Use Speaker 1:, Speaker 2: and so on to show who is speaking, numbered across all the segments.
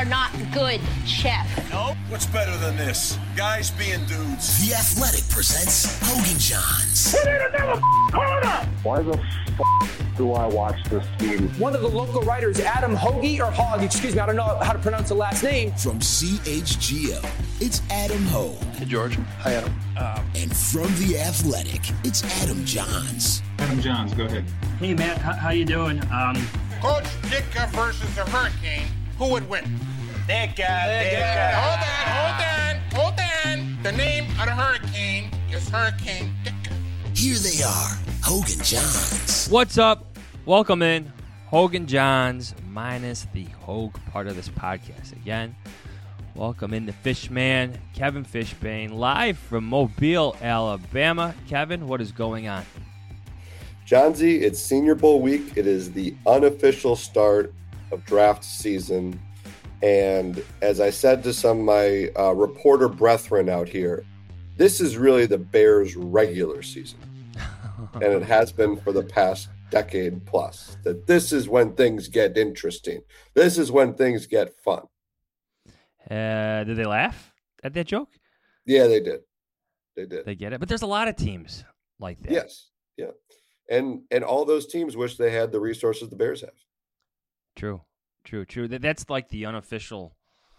Speaker 1: are not good, Chef.
Speaker 2: Nope. What's better than this? Guys being dudes.
Speaker 3: The Athletic presents Hogan Johns.
Speaker 4: We need another corner! Why the do I watch this game?
Speaker 5: One of the local writers, Adam Hoagie, or Hogg, excuse me, I don't know how to pronounce the last name.
Speaker 3: From CHGO, it's Adam Hogue.
Speaker 6: Hey, George. Hi, Adam.
Speaker 3: And from The Athletic, it's Adam Johns.
Speaker 7: Adam Johns, go ahead.
Speaker 8: Hey, Matt, how you doing?
Speaker 9: Coach Ditka versus the Hurricane, who would win?
Speaker 2: Ditka.
Speaker 9: Hold on. The name of the Hurricane is Hurricane Ditka.
Speaker 3: Here they are, Hogan Johns.
Speaker 10: What's up? Welcome in. Hogan Johns minus the Hogue part of this podcast. Again, welcome in the Fishman, Kevin Fishbane, live from Mobile, Alabama. Kevin, what is going on?
Speaker 11: Johnsy, it's Senior Bowl week. It is the unofficial start of draft season. And as I said to some of my reporter brethren out here, this is really the Bears' regular season. And it has been for the past decade plus. That this is when things get interesting. This is when things get fun.
Speaker 10: Did they laugh at that joke?
Speaker 11: Yeah, they did.
Speaker 10: They get it. But there's a lot of teams like that.
Speaker 11: Yes. Yeah. And all those teams wish they had the resources the Bears have.
Speaker 10: True. That's like the unofficial,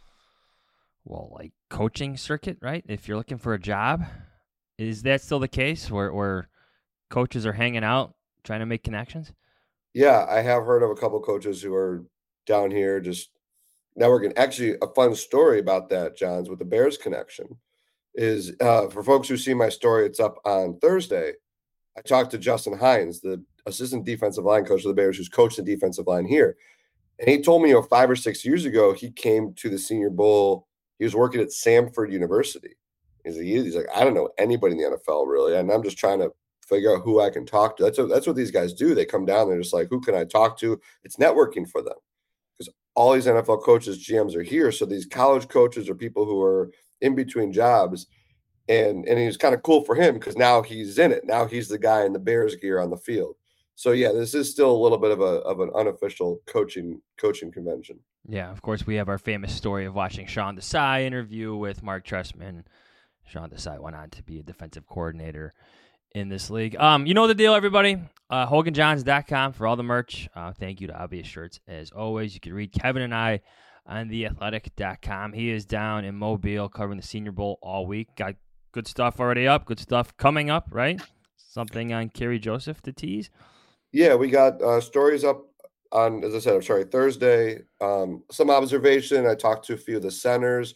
Speaker 10: coaching circuit, right? If you're looking for a job, is that still the case where coaches are hanging out trying to make connections?
Speaker 11: Yeah, I have heard of a couple coaches who are down here just networking. Actually, a fun story about that, Johns, with the Bears connection is for folks who see my story, it's up on Thursday. I talked to Justin Hines, the assistant defensive line coach of the Bears, who's coached the defensive line here. And he told me, 5 or 6 years ago, he came to the Senior Bowl. He was working at Samford University. He's like, I don't know anybody in the NFL really, and I'm just trying to figure out who I can talk to. That's what these guys do. They come down, they're just like, who can I talk to? It's networking for them because all these NFL coaches, GMs are here. So these college coaches are people who are in between jobs, and it was kind of cool for him because now he's in it. Now he's the guy in the Bears gear on the field. So yeah, this is still a little bit of an unofficial coaching convention.
Speaker 10: Yeah, of course, we have our famous story of watching Sean Desai interview with Mark Trestman. Sean Desai went on to be a defensive coordinator in this league. You know the deal, everybody. HoganJohns.com for all the merch. Thank you to Obvious Shirts. As always, you can read Kevin and I on theathletic.com. He is down in Mobile covering the Senior Bowl all week. Got good stuff already up, good stuff coming up, right? Something on Kerry Joseph to tease.
Speaker 11: Yeah, we got stories up on, as I said, Thursday. Some observation. I talked to a few of the centers.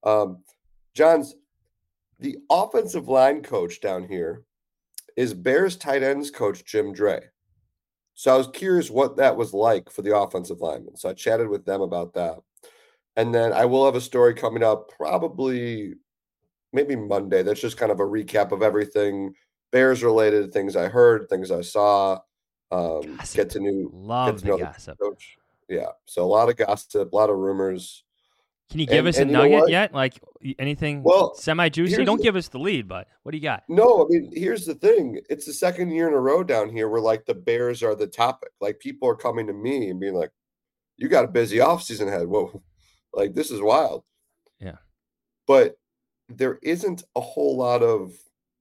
Speaker 11: Johns, the offensive line coach down here is Bears tight ends coach Jim Dray. So I was curious what that was like for the offensive linemen. So I chatted with them about that. And then I will have a story coming up probably maybe Monday. That's just kind of a recap of everything Bears related, things I heard, things I saw. Get to know the
Speaker 10: gossip.
Speaker 11: Coach. Yeah. So a lot of gossip, a lot of rumors.
Speaker 10: Can you give us a nugget yet? Like anything semi-juicy? Don't give us the lead, but what do you got?
Speaker 11: No, I mean, here's the thing. It's the second year in a row down here where, the Bears are the topic. People are coming to me and being like, you got a busy offseason ahead. Whoa, this is wild.
Speaker 10: Yeah.
Speaker 11: But there isn't a whole lot of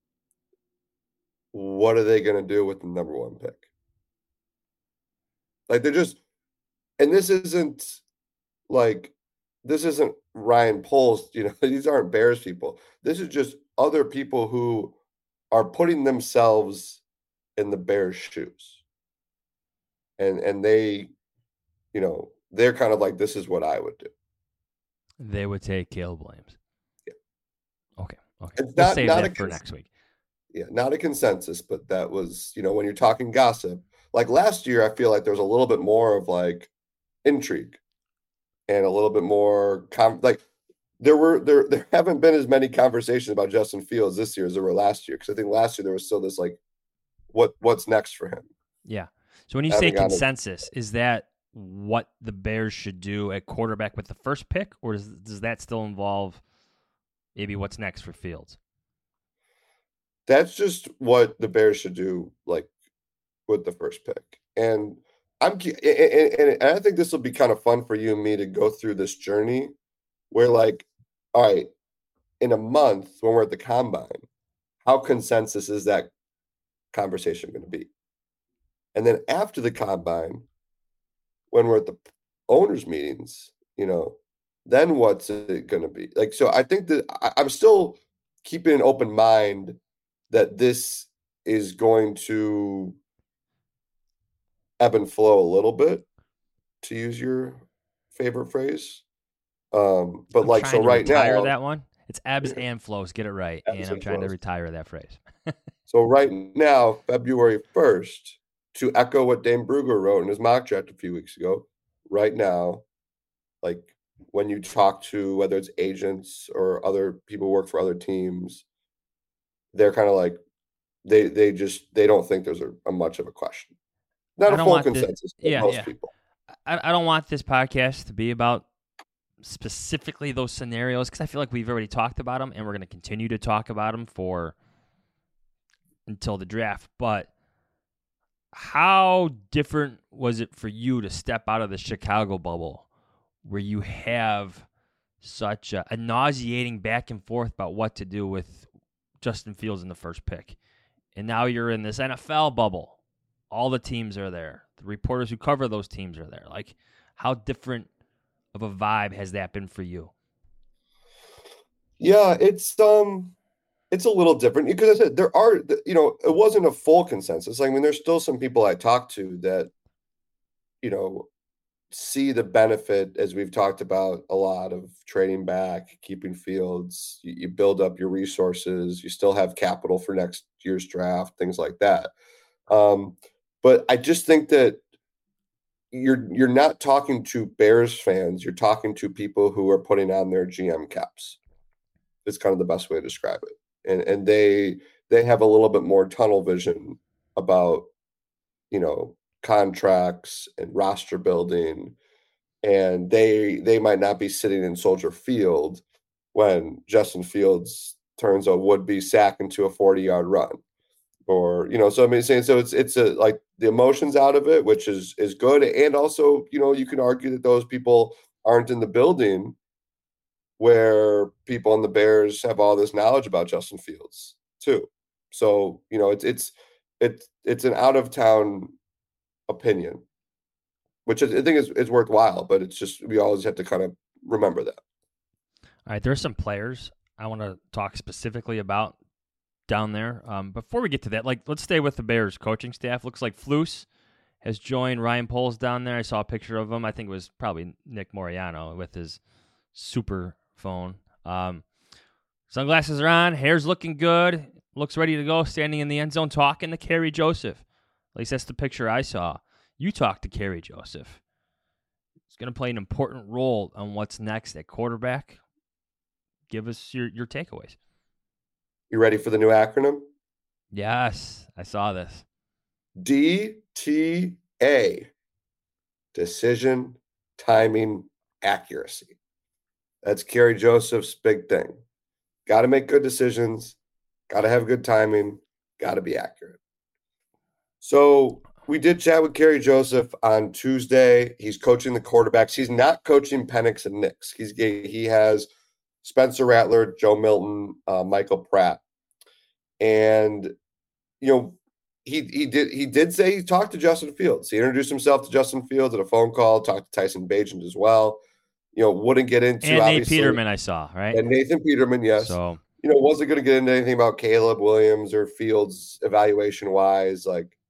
Speaker 11: what are they going to do with the number one pick? They're just – and this isn't Ryan Poles, these aren't Bears people. This is just other people who are putting themselves in the Bears' shoes. And they, they're kind of like, this is what I would do.
Speaker 10: They would take Caleb Williams.
Speaker 11: Yeah.
Speaker 10: Okay.
Speaker 11: It's
Speaker 10: we'll save that for next week.
Speaker 11: Yeah, not a consensus, but that was, when you're talking gossip. Last year, I feel like there was a little bit more of intrigue and a little bit more there haven't been as many conversations about Justin Fields this year as there were last year. Because I think last year there was still this what's next for him.
Speaker 10: Yeah. So when you say consensus, is that what the Bears should do at quarterback with the first pick, or does that still involve maybe what's next for Fields?
Speaker 11: That's just what the Bears should do, with the first pick. And and I think this will be kind of fun for you and me to go through this journey where, like, all right, in a month when we're at the combine, how consensus is that conversation going to be? And then after the combine, when we're at the owners' meetings, then what's it going to be? Like, so I think that I'm still keeping an open mind that this is going to ebb and flow a little bit, to use your favorite phrase. But
Speaker 10: I'm
Speaker 11: like, so right
Speaker 10: retire
Speaker 11: now,
Speaker 10: that one. It's ebbs and flows. Get it right. And I'm trying to retire that phrase.
Speaker 11: So right now, February 1st, to echo what Dane Brugler wrote in his mock draft a few weeks ago, right now, like when you talk to whether it's agents or other people who work for other teams, they're kind of like they don't think there's a much of a question. Not a full consensus, but most people.
Speaker 10: I don't want this podcast to be about specifically those scenarios because I feel like we've already talked about them and we're going to continue to talk about them until the draft. But how different was it for you to step out of the Chicago bubble where you have such a nauseating back and forth about what to do with Justin Fields in the first pick? And now you're in this NFL bubble. All the teams are there. The reporters who cover those teams are there. Like, how different of a vibe has that been for you?
Speaker 11: Yeah, it's a little different because I said there are, it wasn't a full consensus. I mean, there's still some people I talked to that, see the benefit, as we've talked about a lot, of trading back, keeping Fields. You build up your resources. You still have capital for next year's draft, things like that. But I just think that you're not talking to Bears fans. You're talking to people who are putting on their GM caps. It's kind of the best way to describe it. And they have a little bit more tunnel vision about, contracts and roster building. And they might not be sitting in Soldier Field when Justin Fields turns a would-be sack into a 40-yard run. Or, so I mean, saying, so it's like the emotions out of it, which is good. And also, you can argue that those people aren't in the building where people on the Bears have all this knowledge about Justin Fields too. So, it's an out of town opinion, which I think is worthwhile, but it's just, we always have to kind of remember that.
Speaker 10: All right. There's some players I want to talk specifically about down there. Before we get to that, let's stay with the Bears coaching staff. Looks like Flus has joined Ryan Poles down there. I saw a picture of him. I think it was probably Nick Moriano with his super phone. Sunglasses are on. Hair's looking good. Looks ready to go. Standing in the end zone talking to Kerry Joseph. At least that's the picture I saw. You talked to Kerry Joseph. He's going to play an important role on what's next at quarterback. Give us your takeaways.
Speaker 11: You ready for the new acronym?
Speaker 10: Yes, I saw this.
Speaker 11: DTA. Decision, timing, accuracy. That's Kerry Joseph's big thing. Got to make good decisions. Got to have good timing. Got to be accurate. So we did chat with Kerry Joseph on Tuesday. He's coaching the quarterbacks. He's not coaching Penix and Nix. He has Spencer Rattler, Joe Milton, Michael Pratt. And, he did say he talked to Justin Fields. He introduced himself to Justin Fields at a phone call, talked to Tyson Bagent as well. Wouldn't get into,
Speaker 10: and
Speaker 11: obviously.
Speaker 10: Nate Peterman I saw, right?
Speaker 11: And Nathan Peterman, yes.
Speaker 10: So,
Speaker 11: wasn't going to get into anything about Caleb Williams or Fields evaluation-wise,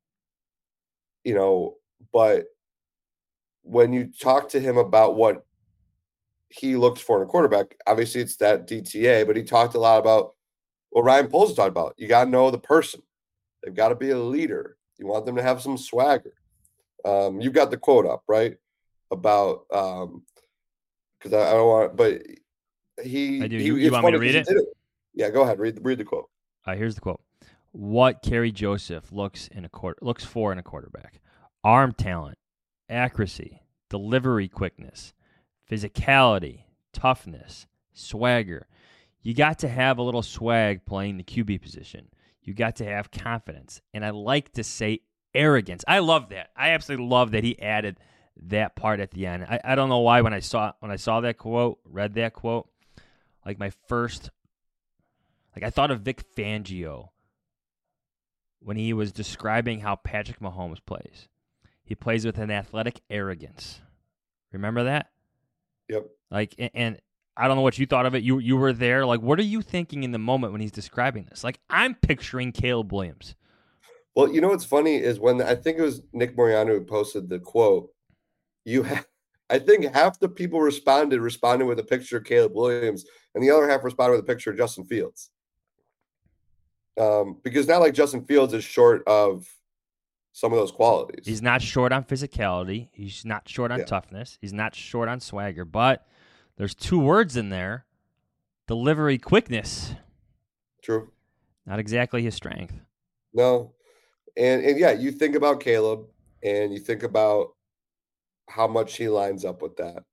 Speaker 11: but when you talk to him about what he looks for in a quarterback, obviously it's that DTA, but he talked a lot about what Ryan Poles talked about. You got to know the person. They've got to be a leader. You want them to have some swagger. You've got the quote up, right? About because I don't want, but he.
Speaker 10: I do. You want me to read it?
Speaker 11: Yeah, go ahead. Read the quote.
Speaker 10: Here's the quote. What Kerry Joseph looks for in a quarterback: arm talent, accuracy, delivery quickness, physicality, toughness, swagger. You got to have a little swag playing the QB position. You got to have confidence. And I like to say arrogance. I love that. I absolutely love that he added that part at the end. I don't know why when I saw that quote, read that quote, like my first, like I thought of Vic Fangio when he was describing how Patrick Mahomes plays. He plays with an athletic arrogance. Remember that?
Speaker 11: Yep.
Speaker 10: Like, and I don't know what you thought of it. You were there. Like, what are you thinking in the moment when he's describing this? Like, I'm picturing Caleb Williams.
Speaker 11: Well, you know what's funny is when I think it was Nick Moriano who posted the quote, I think half the people responded with a picture of Caleb Williams, and the other half responded with a picture of Justin Fields. Because not like Justin Fields is short of some of those qualities.
Speaker 10: He's not short on physicality. He's not short on toughness. He's not short on swagger. But there's two words in there: delivery quickness.
Speaker 11: True.
Speaker 10: Not exactly his strength.
Speaker 11: No. And yeah, you think about Caleb and you think about how much he lines up with that.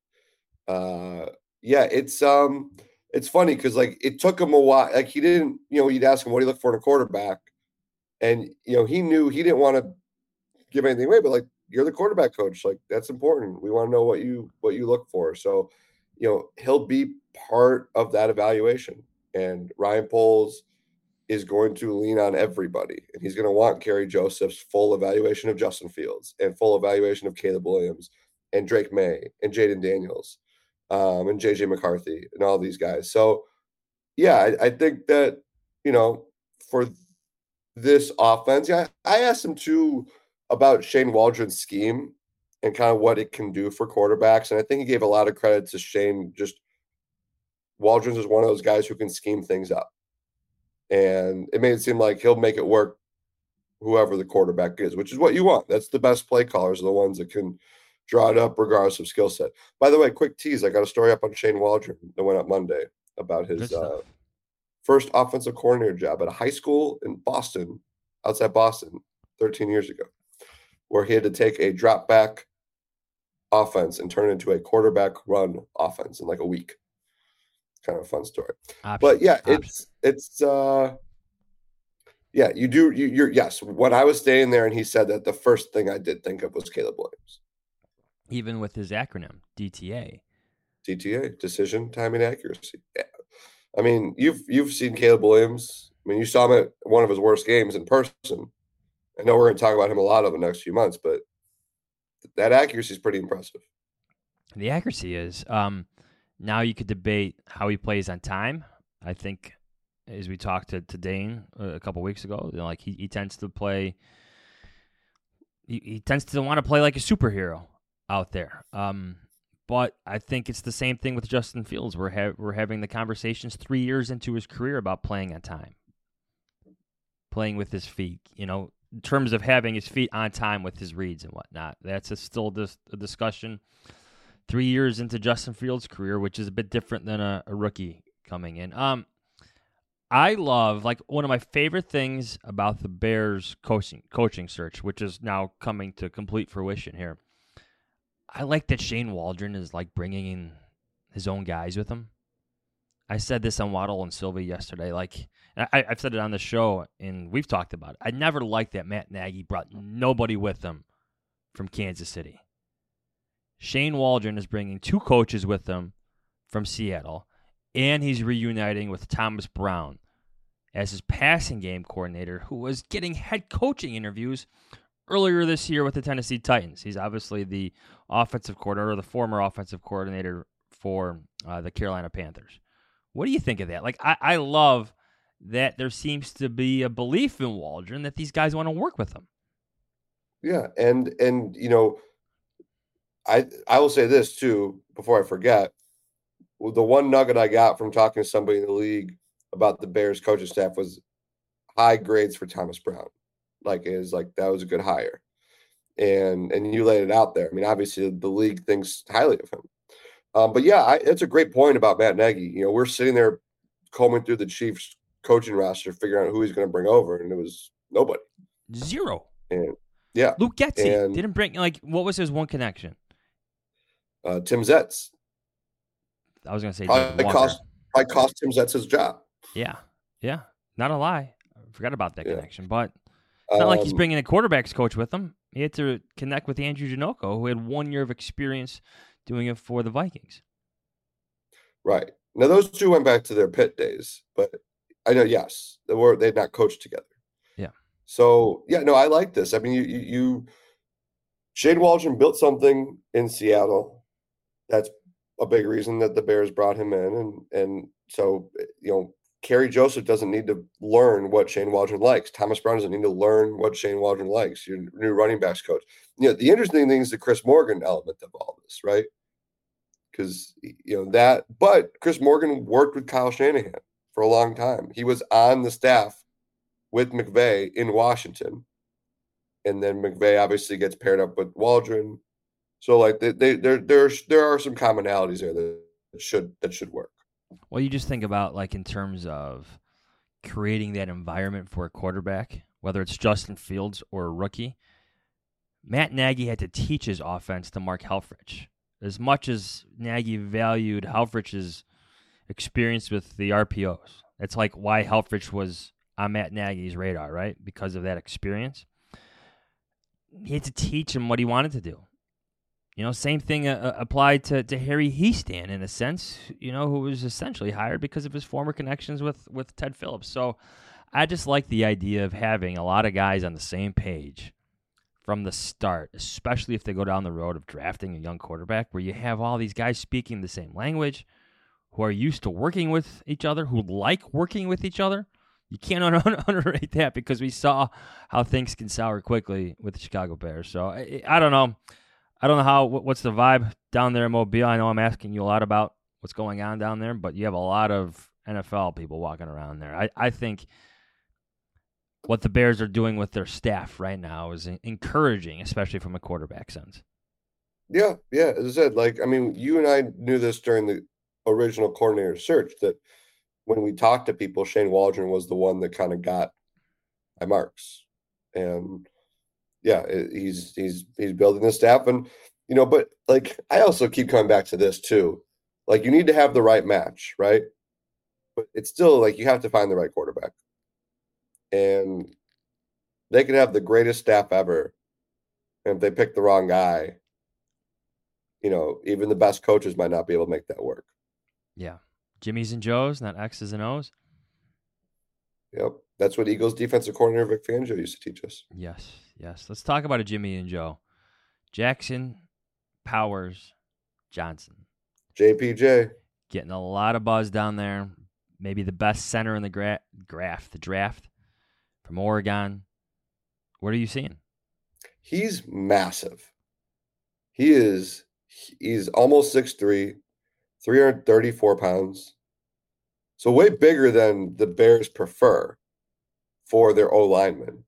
Speaker 11: It's funny because like it took him a while. Like he didn't, you'd ask him what he looked for in a quarterback, and he knew he didn't want to give anything away, but like you're the quarterback coach, like that's important. We want to know what you look for. So, he'll be part of that evaluation, and Ryan Poles is going to lean on everybody, and he's going to want Kerry Joseph's full evaluation of Justin Fields and full evaluation of Caleb Williams and Drake May and Jaden Daniels and JJ McCarthy and all these guys. So, yeah, I think that, for this offense, I asked him too about Shane Waldron's scheme and kind of what it can do for quarterbacks. And I think he gave a lot of credit to Shane. Just Waldron's is one of those guys who can scheme things up. And it made it seem like he'll make it work whoever the quarterback is, which is what you want. That's the best play callers are the ones that can draw it up regardless of skill set. By the way, quick tease, I got a story up on Shane Waldron that went up Monday about his first offensive coordinator job at a high school in Boston, outside Boston, 13 years ago, where he had to take a drop back offense and turn it into a quarterback run offense in like a week. Kind of a fun story. But yeah, yes. When I was staying there and he said that, the first thing I did think of was Caleb Williams.
Speaker 10: Even with his acronym, DTA.
Speaker 11: DTA, decision, timing, accuracy. Yeah. I mean, you've seen Caleb Williams. I mean, you saw him at one of his worst games in person. I know we're going to talk about him a lot over the next few months, but that accuracy is pretty impressive.
Speaker 10: The accuracy is. Now you could debate how he plays on time. I think, as we talked to Dane a couple weeks ago, like he tends to play. He tends to want to play like a superhero out there. But I think it's the same thing with Justin Fields. We're having the conversations 3 years into his career about playing on time, playing with his feet. In terms of having his feet on time with his reads and whatnot. That's still a discussion 3 years into Justin Fields' career, which is a bit different than a rookie coming in. I love, like, one of my favorite things about the Bears coaching search, which is now coming to complete fruition here. I like that Shane Waldron is, like, bringing in his own guys with him. I said this on Waddle and Sylvie yesterday. Like, I've said it on the show, and we've talked about it. I never liked that Matt Nagy brought nobody with him from Kansas City. Shane Waldron is bringing two coaches with him from Seattle, and he's reuniting with Thomas Brown as his passing game coordinator, who was getting head coaching interviews earlier this year with the Tennessee Titans. He's obviously the offensive coordinator, or the former offensive coordinator for the Carolina Panthers. What do you think of that? Like, I love that there seems to be a belief in Waldron that these guys want to work with him.
Speaker 11: Yeah, and I will say this too before I forget. The one nugget I got from talking to somebody in the league about the Bears coaching staff was high grades for Thomas Brown. Like, that was a good hire, and you laid it out there. I mean, obviously the league thinks highly of him. But yeah, it's a great point about Matt Nagy. We're sitting there combing through the Chiefs coaching roster, figuring out who he's going to bring over, and it was nobody.
Speaker 10: Zero.
Speaker 11: And yeah,
Speaker 10: Luke Getsy didn't bring, like, what was his one connection?
Speaker 11: Tim Zetz.
Speaker 10: I was going to say
Speaker 11: probably cost Tim Zetz his job.
Speaker 10: Yeah, not a lie. I forgot about that connection, but It's not like he's bringing a quarterback's coach with him. He had to connect with Andrew Janocko, who had 1 year of experience doing it for the Vikings.
Speaker 11: Right. Now, those two went back to their Pitt days, but I know, yes, they'd not coached together.
Speaker 10: Yeah.
Speaker 11: So, yeah, no, I like this. I mean, Shane Waldron built something in Seattle. That's a big reason that the Bears brought him in. And so, Kerry Joseph doesn't need to learn what Shane Waldron likes. Thomas Brown doesn't need to learn what Shane Waldron likes. Your new running backs coach. The interesting thing is the Chris Morgan element of all this, right? Because, but Chris Morgan worked with Kyle Shanahan for a long time. He was on the staff with McVay in Washington. And then McVay obviously gets paired up with Waldron. So, like, there are some commonalities there that should work.
Speaker 10: Well, you just think about, like, in terms of creating that environment for a quarterback, whether it's Justin Fields or a rookie. Matt Nagy had to teach his offense to Mark Helfrich. As much as Nagy valued Helfrich's experience with the RPOs, that's like why Helfrich was on Matt Nagy's radar, right? Because of that experience. He had to teach him what he wanted to do. Same thing applied to Harry Hiestand in a sense, who was essentially hired because of his former connections with Ted Phillips. So I just like the idea of having a lot of guys on the same page from the start, especially if they go down the road of drafting a young quarterback, where you have all these guys speaking the same language, who are used to working with each other, who like working with each other. You can't underrate that, because we saw how things can sour quickly with the Chicago Bears. So I don't know. I don't know what's the vibe down there in Mobile. I know I'm asking you a lot about what's going on down there, but you have a lot of NFL people walking around there. I think what the Bears are doing with their staff right now is encouraging, especially from a quarterback sense.
Speaker 11: Yeah. As I said, you and I knew this during the original coordinator search, that when we talked to people, Shane Waldron was the one that kind of got high marks. And yeah, he's building the staff, and but I also keep coming back to this too. Like, you need to have the right match, right? But it's still you have to find the right quarterback, and they could have the greatest staff ever, and if they pick the wrong guy, even the best coaches might not be able to make that work.
Speaker 10: Yeah, Jimmy's and Joe's, not X's and O's.
Speaker 11: Yep, that's what Eagles defensive coordinator Vic Fangio used to teach us.
Speaker 10: Yes. Let's talk about a Jimmy and Joe. Jackson, Powers, Johnson.
Speaker 11: JPJ.
Speaker 10: Getting a lot of buzz down there. Maybe the best center in the draft from Oregon. What are you seeing?
Speaker 11: He's massive. He's almost 6'3", 334 pounds. So way bigger than the Bears prefer for their O-linemen.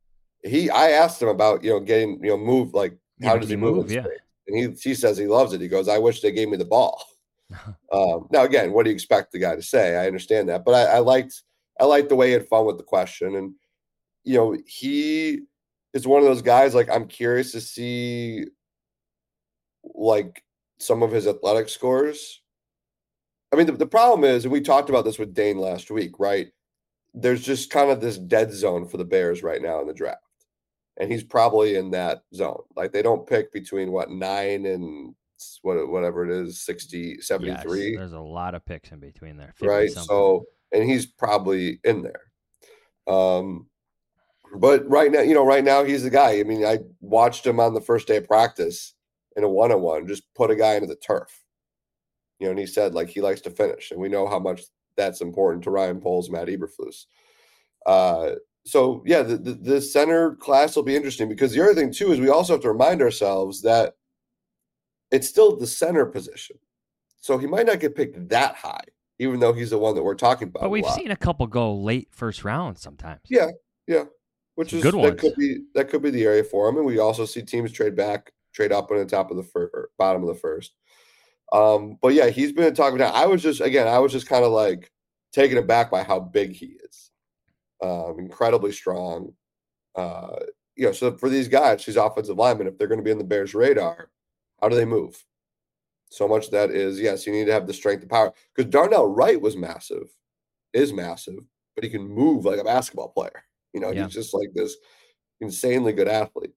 Speaker 11: I asked him about, getting, moved, how does he move?
Speaker 10: Yeah.
Speaker 11: And he says he loves it. He goes, I wish they gave me the ball. Now, again, what do you expect the guy to say? I understand that. But I liked the way he had fun with the question. And, he is one of those guys, I'm curious to see, some of his athletic scores. I mean, the problem is, and we talked about this with Dane last week, right? There's just kind of this dead zone for the Bears right now in the draft. And he's probably in that zone. They don't pick between 9 and whatever it is, 60, 73.
Speaker 10: Yes, there's a lot of picks in between there.
Speaker 11: Right.
Speaker 10: Something.
Speaker 11: So, and he's probably in there. But right now he's the guy. I mean, I watched him on the first day of practice in a one-on-one, just put a guy into the turf. And he said, he likes to finish. And we know how much that's important to Ryan Poles, Matt Eberflus. So, yeah, the center class will be interesting, because the other thing, too, is we also have to remind ourselves that it's still the center position. So he might not get picked that high, even though he's the one that we're talking about.
Speaker 10: But we've seen a couple go late first round sometimes.
Speaker 11: Yeah. Which is
Speaker 10: good ones.
Speaker 11: That could be the area for him. And we also see teams trade up on the top of the bottom of the first. But yeah, he's been talking about. I was just kind of taken aback by how big he is. Incredibly strong. So for these guys, these offensive linemen, if they're going to be in the Bears' radar, how do they move? So much of that is, yes, you need to have the strength and power. Because Darnell Wright is massive, but he can move like a basketball player. He's just this insanely good athlete.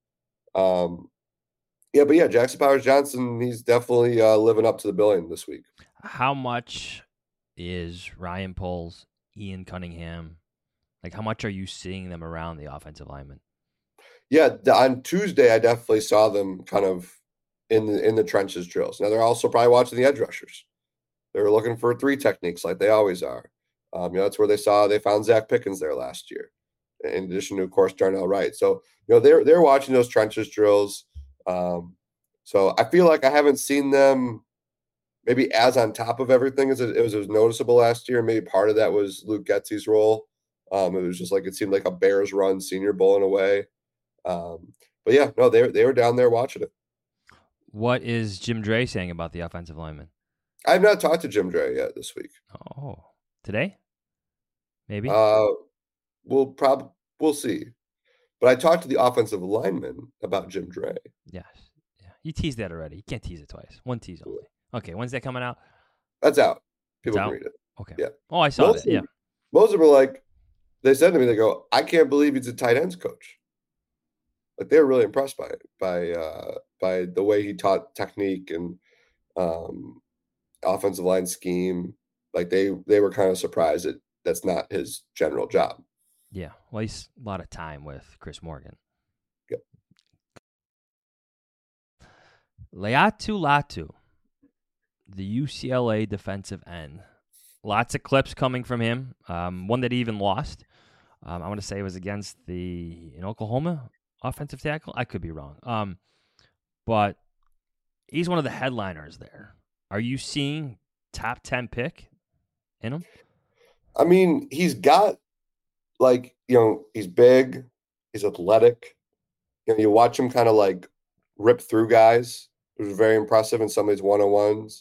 Speaker 11: But Jackson Powers Johnson, he's definitely living up to the billing this week.
Speaker 10: How much is Ryan Poles, Ian Cunningham? Like, how much are you seeing them around the offensive linemen?
Speaker 11: Yeah, on Tuesday, I definitely saw them kind of in the trenches drills. Now, they're also probably watching the edge rushers. They're looking for 3 techniques like they always are. That's where they found Zach Pickens there last year, in addition to, of course, Darnell Wright. So, they're watching those trenches drills. So I feel like I haven't seen them maybe as on top of everything as it was noticeable last year. Maybe part of that was Luke Getsy's role. It was just like, it seemed like a Bears run Senior Bowl in a way. They were down there watching it.
Speaker 10: What is Jim Dre saying about the offensive lineman?
Speaker 11: I've not talked to Jim Dre yet this week.
Speaker 10: Oh, today? Maybe.
Speaker 11: We'll see. But I talked to the offensive lineman about Jim Dre.
Speaker 10: Yes. Yeah. You teased that already. You can't tease it twice. One tease only. Okay. When's that coming out?
Speaker 11: That's out. People
Speaker 10: can
Speaker 11: read it.
Speaker 10: Okay.
Speaker 11: Yeah.
Speaker 10: Oh, I saw that. Yeah.
Speaker 11: Most of them were like, they said to me, they go, I can't believe he's a tight ends coach. Like, they were really impressed by it, by the way he taught technique and offensive line scheme. Like, they were kind of surprised that that's not his general job.
Speaker 10: Yeah. Well, he's a lot of time with Chris Morgan.
Speaker 11: Yep.
Speaker 10: Laiatu Latu, the UCLA defensive end. Lots of clips coming from him. One that he even lost. I want to say it was against in Oklahoma offensive tackle. I could be wrong. But he's one of the headliners there. Are you seeing top 10 pick in him?
Speaker 11: I mean, he's got, he's big, he's athletic. You watch him kind of like rip through guys. It was very impressive in some of his one-on-ones.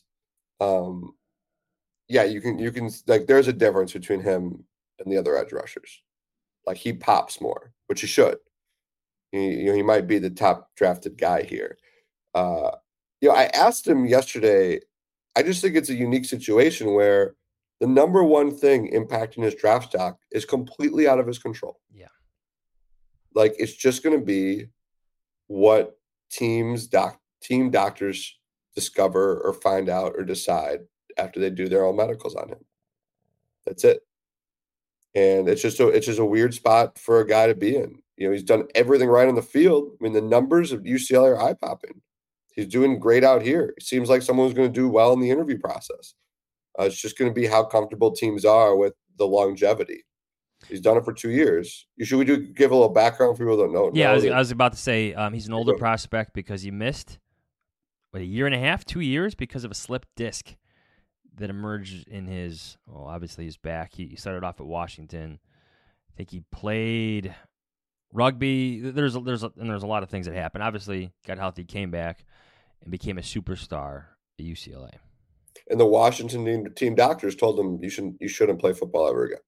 Speaker 11: You can there's a difference between him and the other edge rushers. Like, he pops more, which he should. He might be the top drafted guy here. I asked him yesterday. I just think it's a unique situation where the number one thing impacting his draft stock is completely out of his control.
Speaker 10: Yeah.
Speaker 11: Like, it's just going to be what team doctors discover or find out or decide after they do their own medicals on him. That's it. And it's just a weird spot for a guy to be in. He's done everything right on the field. I mean, the numbers of UCLA are eye-popping. He's doing great out here. It seems like someone who's going to do well in the interview process. It's just going to be how comfortable teams are with the longevity. He's done it for 2 years. Give a little background for people that don't know?
Speaker 10: Yeah, I was about to say he's an older prospect because he missed a year and a half, 2 years because of a slipped disc that emerged in his back. He started off at Washington. I think he played rugby. There's a lot of things that happened. Obviously, got healthy, came back, and became a superstar at UCLA.
Speaker 11: And the Washington team doctors told him you shouldn't play football ever again.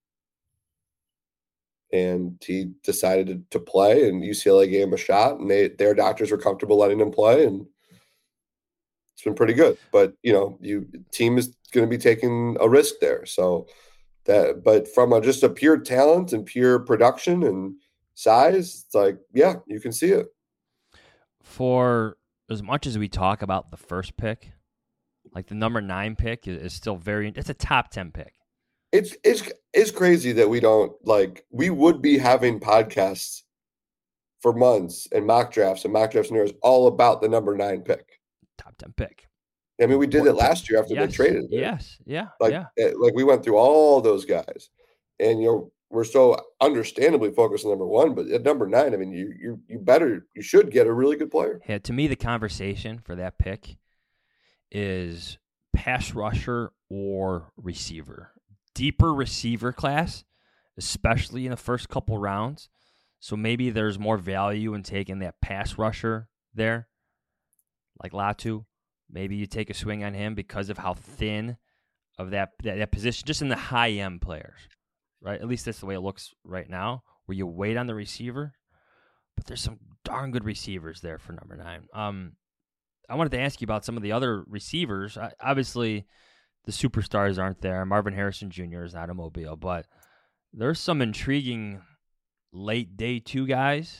Speaker 11: And he decided to play, and UCLA gave him a shot, and their doctors were comfortable letting him play, and it's been pretty good. But team is going to be taking a risk there. So but from just a pure talent and pure production and size, it's like, yeah, you can see it. For
Speaker 10: as much as we talk about the first pick, like the number 9 pick is still it's a top 10 pick.
Speaker 11: It's crazy that we don't we would be having podcasts for months and mock drafts scenarios all about the number 9 pick.
Speaker 10: Top 10 pick.
Speaker 11: I mean, we did it last year after they traded.
Speaker 10: Yes. Yeah.
Speaker 11: We went through all those guys, and we're so understandably focused on number 1, but at number 9, I mean, you should get a really good player.
Speaker 10: Yeah, to me, the conversation for that pick is pass rusher or receiver. Deeper receiver class, especially in the first couple rounds. So maybe there's more value in taking that pass rusher there, like Latu. Maybe you take a swing on him because of how thin of that position, just in the high-end players, right? At least that's the way it looks right now, where you wait on the receiver. But there's some darn good receivers there for number 9. I wanted to ask you about some of the other receivers. Obviously, the superstars aren't there. Marvin Harrison Jr. is not a Mobile, but there's some intriguing late day 2 guys.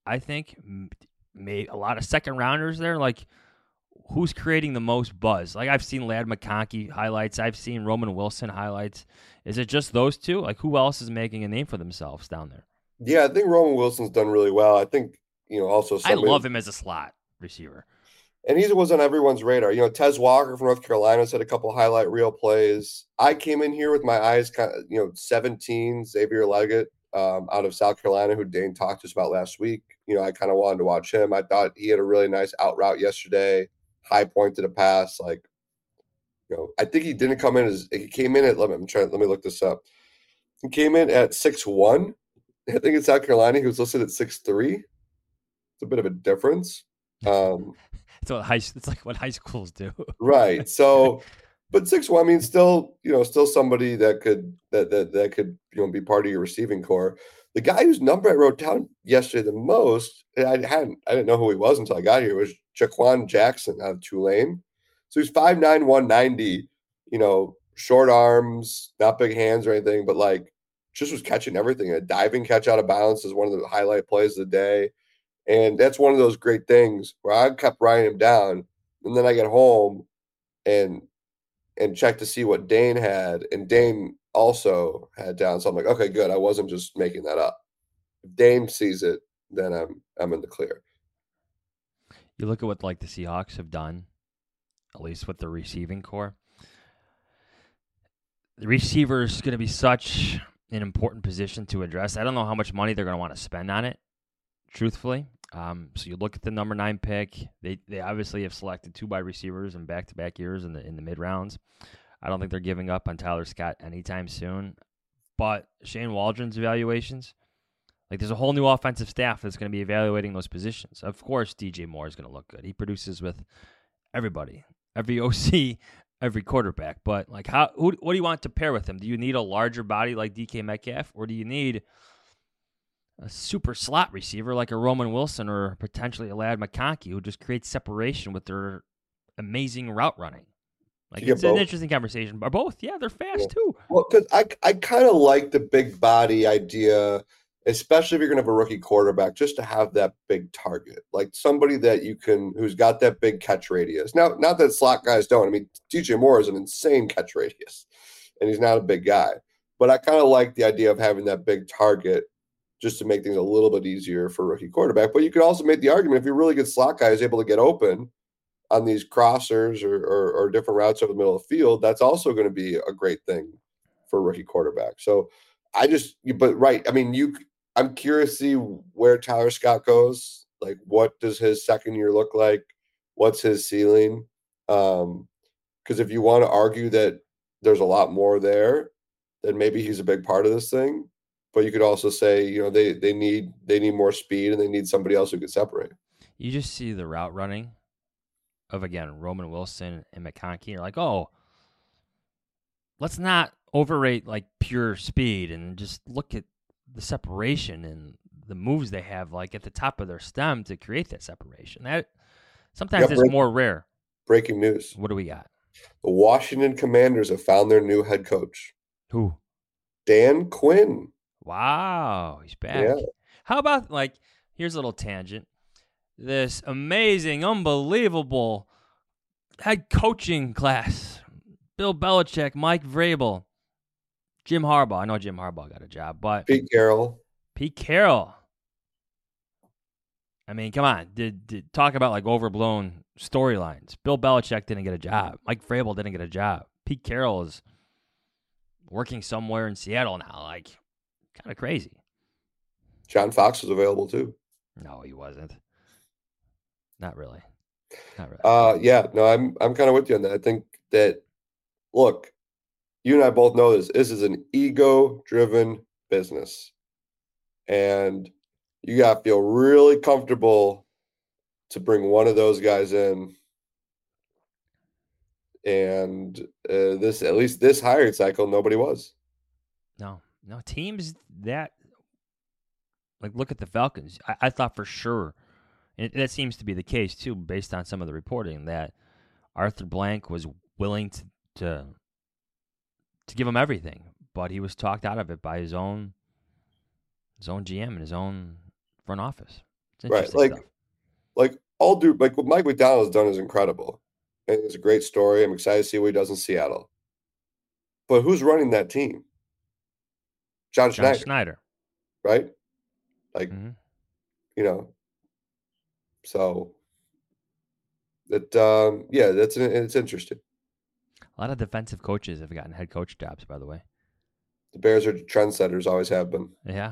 Speaker 10: I think, a lot of second rounders there. Like, who's creating the most buzz? Like, I've seen Ladd McConkey highlights. I've seen Roman Wilson highlights. Is it just those two? Like, who else is making a name for themselves down there?
Speaker 11: Yeah, I think Roman Wilson's done really well. I think, also
Speaker 10: I love him as a slot receiver.
Speaker 11: And he was on everyone's radar. Tez Walker from North Carolina had a couple highlight reel plays. I came in here with my eyes kind of, 17, Xavier Leggett out of South Carolina, who Dane talked to us about last week. I kind of wanted to watch him. I thought he had a really nice out route yesterday, high point to the pass. Like, I think he didn't come in he came in at, let me look this up. He came in at 6'1". I think in South Carolina, he was listed at 6'3". It's a bit of a difference.
Speaker 10: It's like what high schools do.
Speaker 11: Right. So, but 6'1", I mean, still somebody that could be part of your receiving core. The guy whose number I wrote down yesterday the most, I didn't know who he was until I got here, was Jaquan Jackson out of Tulane. So he's 5'9", 190, short arms, not big hands or anything, but like just was catching everything. A diving catch out of bounds is one of the highlight plays of the day. And that's one of those great things where I kept writing him down. And then I get home and check to see what Dane had. And Dane also had down. So I'm like, okay, good. I wasn't just making that up. If Dane sees it, then I'm in the clear.
Speaker 10: You look at what like the Seahawks have done, at least with the receiving core. The receiver is going to be such an important position to address. I don't know how much money they're going to want to spend on it, truthfully. So you look at the number 9 pick. They obviously have selected 2 wide receivers in back-to-back years in the mid rounds. I don't think they're giving up on Tyler Scott anytime soon. But Shane Waldron's evaluations, like there's a whole new offensive staff that's going to be evaluating those positions. Of course, DJ Moore is going to look good. He produces with everybody, every OC, every quarterback. But like, what do you want to pair with him? Do you need a larger body like DK Metcalf, or do you need a super slot receiver like a Roman Wilson or potentially a Ladd McConkey who just creates separation with their amazing route running? Like, it's an interesting conversation. Or both, yeah, they're fast too.
Speaker 11: Well, because I kind of like the big body idea, especially if you're going to have a rookie quarterback, just to have that big target, like somebody that who's got that big catch radius. Now, not that slot guys don't. I mean, DJ Moore is an insane catch radius, and he's not a big guy. But I kind of like the idea of having that big target, just to make things a little bit easier for a rookie quarterback. But you could also make the argument, if your really good slot guy is able to get open on these crossers or different routes over the middle of the field, that's also going to be a great thing for a rookie quarterback. So I'm curious to see where Tyler Scott goes. Like, what does his second year look like? What's his ceiling? Because if you want to argue that there's a lot more there, then maybe he's a big part of this thing. But you could also say, they need more speed and they need somebody else who could separate.
Speaker 10: You just see the route running of, again, Roman Wilson and McConkey. You're like, oh, let's not overrate like pure speed and just look at the separation and the moves they have like at the top of their stem to create that separation. That sometimes is more rare.
Speaker 11: Breaking news.
Speaker 10: What do we got?
Speaker 11: The Washington Commanders have found their new head coach.
Speaker 10: Who?
Speaker 11: Dan Quinn.
Speaker 10: Wow, he's back.
Speaker 11: Yeah.
Speaker 10: How about, like, here's a little tangent. This amazing, unbelievable head coaching class. Bill Belichick, Mike Vrabel, Jim Harbaugh. I know Jim Harbaugh got a job, but
Speaker 11: Pete Carroll.
Speaker 10: I mean, come on. Did talk about, like, overblown storylines. Bill Belichick didn't get a job. Mike Vrabel didn't get a job. Pete Carroll is working somewhere in Seattle now. Like, kind of crazy.
Speaker 11: John Fox was available too.
Speaker 10: No, he wasn't. Not really.
Speaker 11: Yeah, no, I'm kind of with you on that. I think that, look, you and I both know this. This is an ego-driven business, and you got to feel really comfortable to bring one of those guys in. And at least this hiring cycle, nobody was.
Speaker 10: No, teams that, like, look at the Falcons. I thought for sure, and that seems to be the case too, based on some of the reporting, that Arthur Blank was willing to give him everything, but he was talked out of it by his own GM and his own front office. It's interesting
Speaker 11: Right.
Speaker 10: stuff.
Speaker 11: Like what Mike McDonald has done is incredible. And it's a great story. I'm excited to see what he does in Seattle. But who's running that team? John Schneider. Right? Like, so that it's interesting.
Speaker 10: A lot of defensive coaches have gotten head coach jobs, by the way.
Speaker 11: The Bears are trendsetters, always have been.
Speaker 10: Yeah.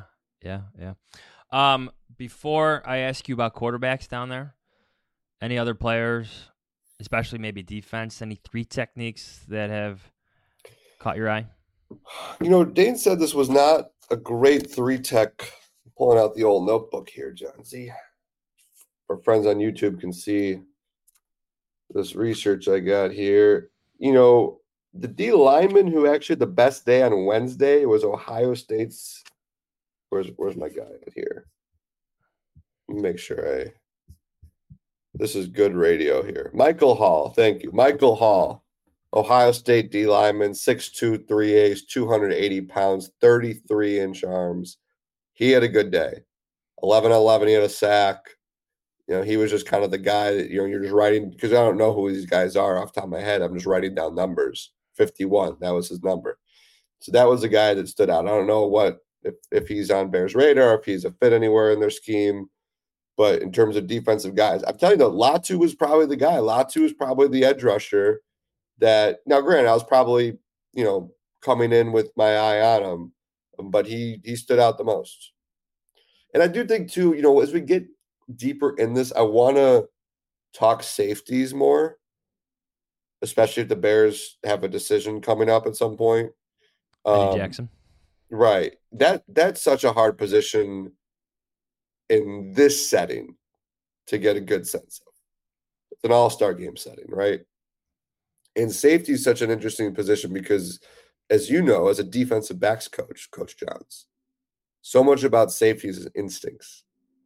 Speaker 10: Before I ask you about quarterbacks down there, any other players, especially maybe defense, any 3 techniques that have caught your eye?
Speaker 11: Dane said this was not a great 3-tech. Pulling out the old notebook here, John. See, our friends on YouTube can see this research I got here. The D lineman who actually had the best day on Wednesday was Ohio State's. Where's my guy here? Let me make sure this is good radio here. Michael Hall. Thank you. Michael Hall, Ohio State D lineman, 6'2", 3/8", 280 pounds, 33-inch arms. He had a good day. 11-11, he had a sack. He was just kind of the guy that, you're just writing, because I don't know who these guys are off the top of my head. I'm just writing down numbers. 51, that was his number. So that was the guy that stood out. I don't know if he's on Bears' radar, if he's a fit anywhere in their scheme. But in terms of defensive guys, I'm telling you, Latu was probably the guy. Latu was probably the edge rusher that, now granted, I was probably, coming in with my eye on him, but he stood out the most. And I do think too, as we get deeper in this, I want to talk safeties more, especially if the Bears have a decision coming up at some point.
Speaker 10: Eddie Jackson.
Speaker 11: Right. That's such a hard position in this setting to get a good sense of. It's an all-star game setting, right? And safety is such an interesting position because, as you know, as a defensive backs coach, Coach Johns, so much about safety is instincts.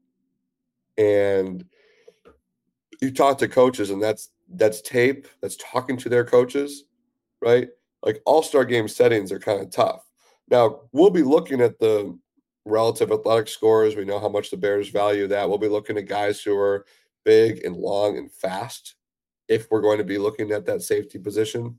Speaker 11: And you talk to coaches, and that's tape, that's talking to their coaches, right? Like all-star game settings are kind of tough. Now, we'll be looking at the relative athletic scores. We know how much the Bears value that. We'll be looking at guys who are big and long and fast if we're going to be looking at that safety position.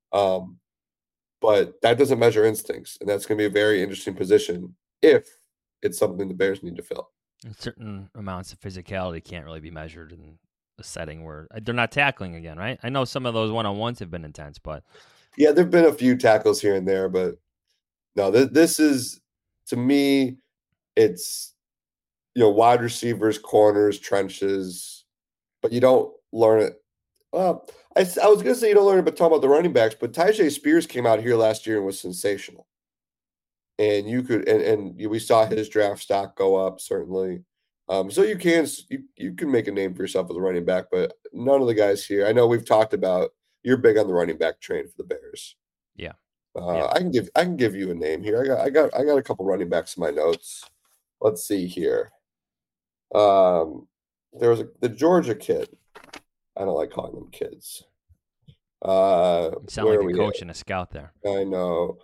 Speaker 11: But that doesn't measure instincts, and that's going to be a very interesting position if it's something the Bears need to fill.
Speaker 10: And certain amounts of physicality can't really be measured in a setting where they're not tackling again, right? I know some of those one-on-ones have been intense, but...
Speaker 11: Yeah, there have been a few tackles here and there, but no, this is, to me, it's, wide receivers, corners, trenches, but you don't learn it. Well, I was going to say you don't learn it, but talking about the running backs, but Tyjae Spears came out here last year and was sensational. And you could, and we saw his draft stock go up, certainly. So you can make a name for yourself as a running back, but none of the guys here, I know we've talked about, you're big on the running back train for the Bears.
Speaker 10: Yeah.
Speaker 11: I can give you a name here. I got a couple running backs in my notes. Let's see here. There was the Georgia kid. I don't like calling them kids.
Speaker 10: You sound like a coach and a scout there.
Speaker 11: I know.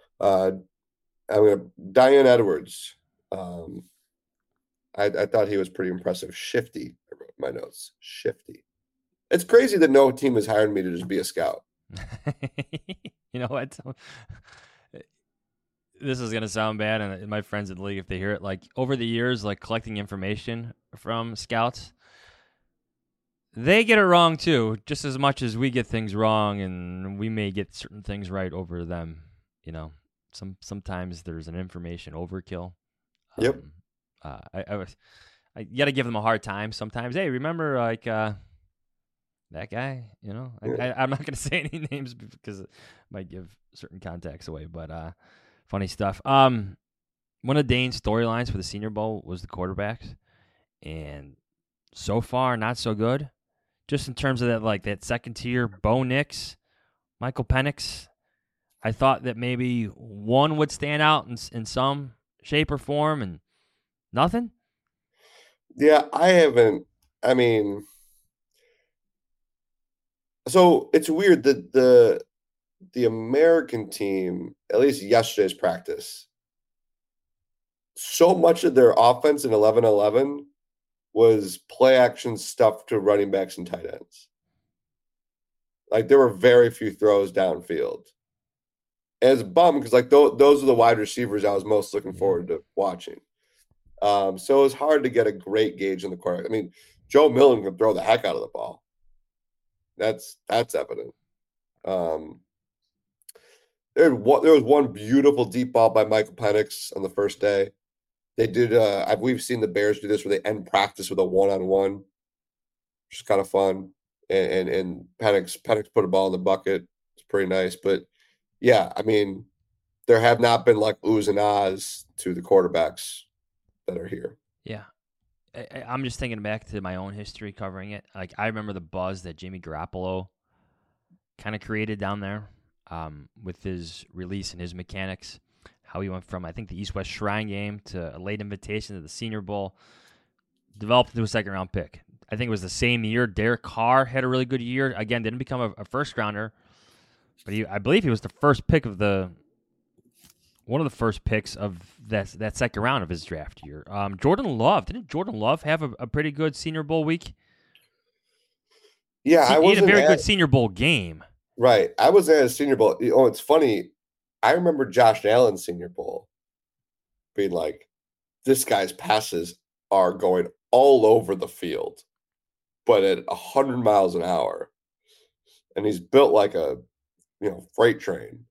Speaker 11: Diane Edwards. I thought he was pretty impressive. Shifty. I wrote my notes. Shifty. It's crazy that no team has hired me to just be a scout.
Speaker 10: You know what? This is gonna sound bad, and my friends in the league, if they hear it, like over the years, like collecting information from scouts, they get it wrong too, just as much as we get things wrong, and we may get certain things right over them. Sometimes there's an information overkill.
Speaker 11: Yep.
Speaker 10: You got to give them a hard time sometimes. Hey, remember that guy? I'm not going to say any names because it might give certain contacts away. But funny stuff. One of Dane's storylines for the Senior Bowl was the quarterbacks, and so far not so good. Just in terms of that second tier, Bo Nix, Michael Penix. I thought that maybe one would stand out in some shape or form, and nothing.
Speaker 11: Yeah, I haven't. I mean, so it's weird that the American team, at least yesterday's practice, so much of their offense in 11-11 was play action stuff to running backs and tight ends. Like there were very few throws downfield. And it's bummed because like those are the wide receivers I was most looking forward to watching. So it was hard to get a great gauge in the quarterback. I mean, Joe Milton can throw the heck out of the ball. That's evident. There was one beautiful deep ball by Michael Penix on the first day. They did. We've seen the Bears do this where they end practice with a one-on-one, which is kind of fun. And Penix put a ball in the bucket. It's pretty nice. But yeah, I mean, there have not been like oohs and ahs to the quarterbacks that are here.
Speaker 10: Yeah. I'm just thinking back to my own history covering it. Like I remember the buzz that Jimmy Garoppolo kind of created down there with his release and his mechanics. How he went from, I think, the East-West Shrine game to a late invitation to the Senior Bowl, developed into a second-round pick. I think it was the same year. Derek Carr had a really good year. Again, didn't become a first-rounder, but I believe he was the first pick of one of the first picks of that second round of his draft year. Jordan Love. Didn't Jordan Love have a pretty good Senior Bowl week?
Speaker 11: Yeah,
Speaker 10: he had a very good Senior Bowl game.
Speaker 11: Right. I was at a Senior Bowl. Oh, it's funny. I remember Josh Allen's Senior Bowl being like, this guy's passes are going all over the field, but at 100 miles an hour. And he's built like a, freight train.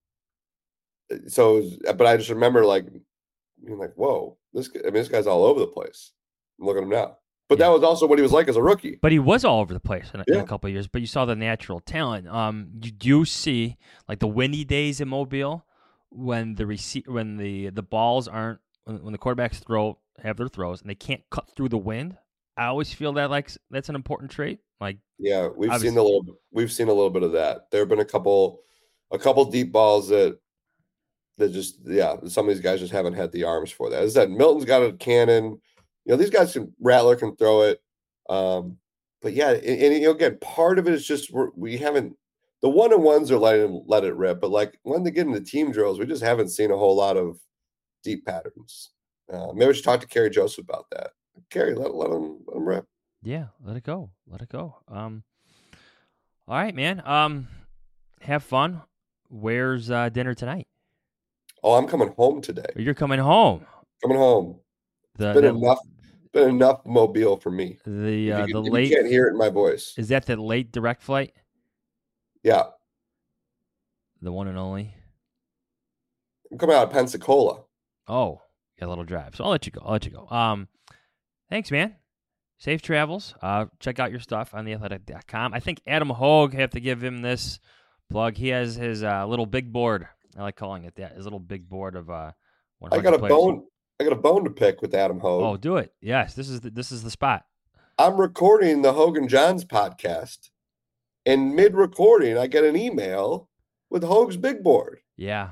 Speaker 11: So, but I just remember like, being like, whoa, this guy's all over the place. Look at him now. But that was also what he was like as a rookie.
Speaker 10: But he was all over the place in a couple of years. But you saw the natural talent. You do see like the windy days in Mobile when the balls aren't when the quarterbacks have their throws and they can't cut through the wind. I always feel that like that's an important trait. Like
Speaker 11: we've seen a little bit of that. There have been a couple deep balls that just some of these guys just haven't had the arms for that. As I said, Milton's got a cannon. These guys Rattler can throw it. But yeah, and again, part of it is just we haven't the one-on-ones are let it rip, but like when they get into team drills, we just haven't seen a whole lot of deep patterns. Maybe we should talk to Kerry Joseph about that. Kerry, let him rip.
Speaker 10: Yeah, let it go. All right, man. Have fun. Where's dinner tonight?
Speaker 11: Oh, I'm coming home today.
Speaker 10: You're coming home.
Speaker 11: Coming home. Been enough Mobile for me.
Speaker 10: The
Speaker 11: you
Speaker 10: late
Speaker 11: can't hear it in my voice.
Speaker 10: Is that the late direct flight?
Speaker 11: Yeah.
Speaker 10: The one and only.
Speaker 11: I'm coming out of Pensacola.
Speaker 10: Oh, got a little drive. So I'll let you go. Thanks, man. Safe travels. Check out your stuff on theathletic.com. I think Adam Hogue, have to give him this plug. He has his little big board. I like calling it that. His little big board of 100
Speaker 11: I got a
Speaker 10: players.
Speaker 11: I got a bone to pick with Adam Hogue.
Speaker 10: Oh, do it. Yes, this is the spot.
Speaker 11: I'm recording the Hogue & Johns podcast, and mid-recording, I get an email with Hogue's big board.
Speaker 10: Yeah.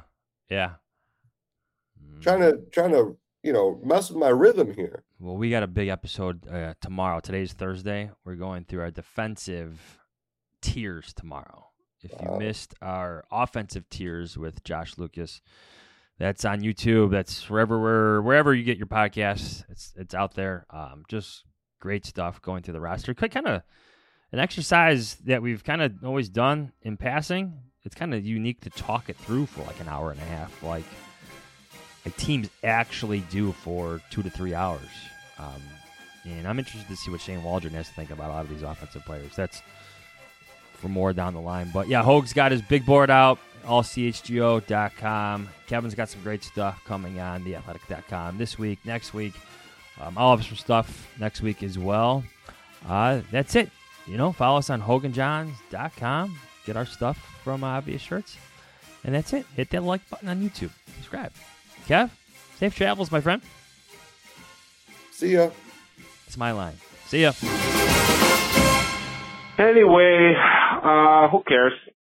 Speaker 11: Trying to mess with my rhythm here.
Speaker 10: Well, we got a big episode tomorrow. Today's Thursday. We're going through our defensive tiers tomorrow. If you missed our offensive tiers with Josh Lucas, that's on YouTube. That's wherever you get your podcasts. It's out there. Just great stuff going through the roster. Kind of an exercise that we've kind of always done in passing. It's kind of unique to talk it through for like an hour and a half. Like teams actually do for 2 to 3 hours. And I'm interested to see what Shane Waldron has to think about a lot of these offensive players. That's for more down the line. But yeah, Hogue's got his big board out, allchgo.com. Kevin's got some great stuff coming on theathletic.com this week, next week. I'll have some stuff next week as well. That's it. Follow us on hoganjohns.com. Get our stuff from Obvious Shirts. And that's it. Hit that like button on YouTube. Subscribe. Kev, safe travels, my friend.
Speaker 11: See ya.
Speaker 10: It's my line. See ya.
Speaker 4: Anyway, who cares?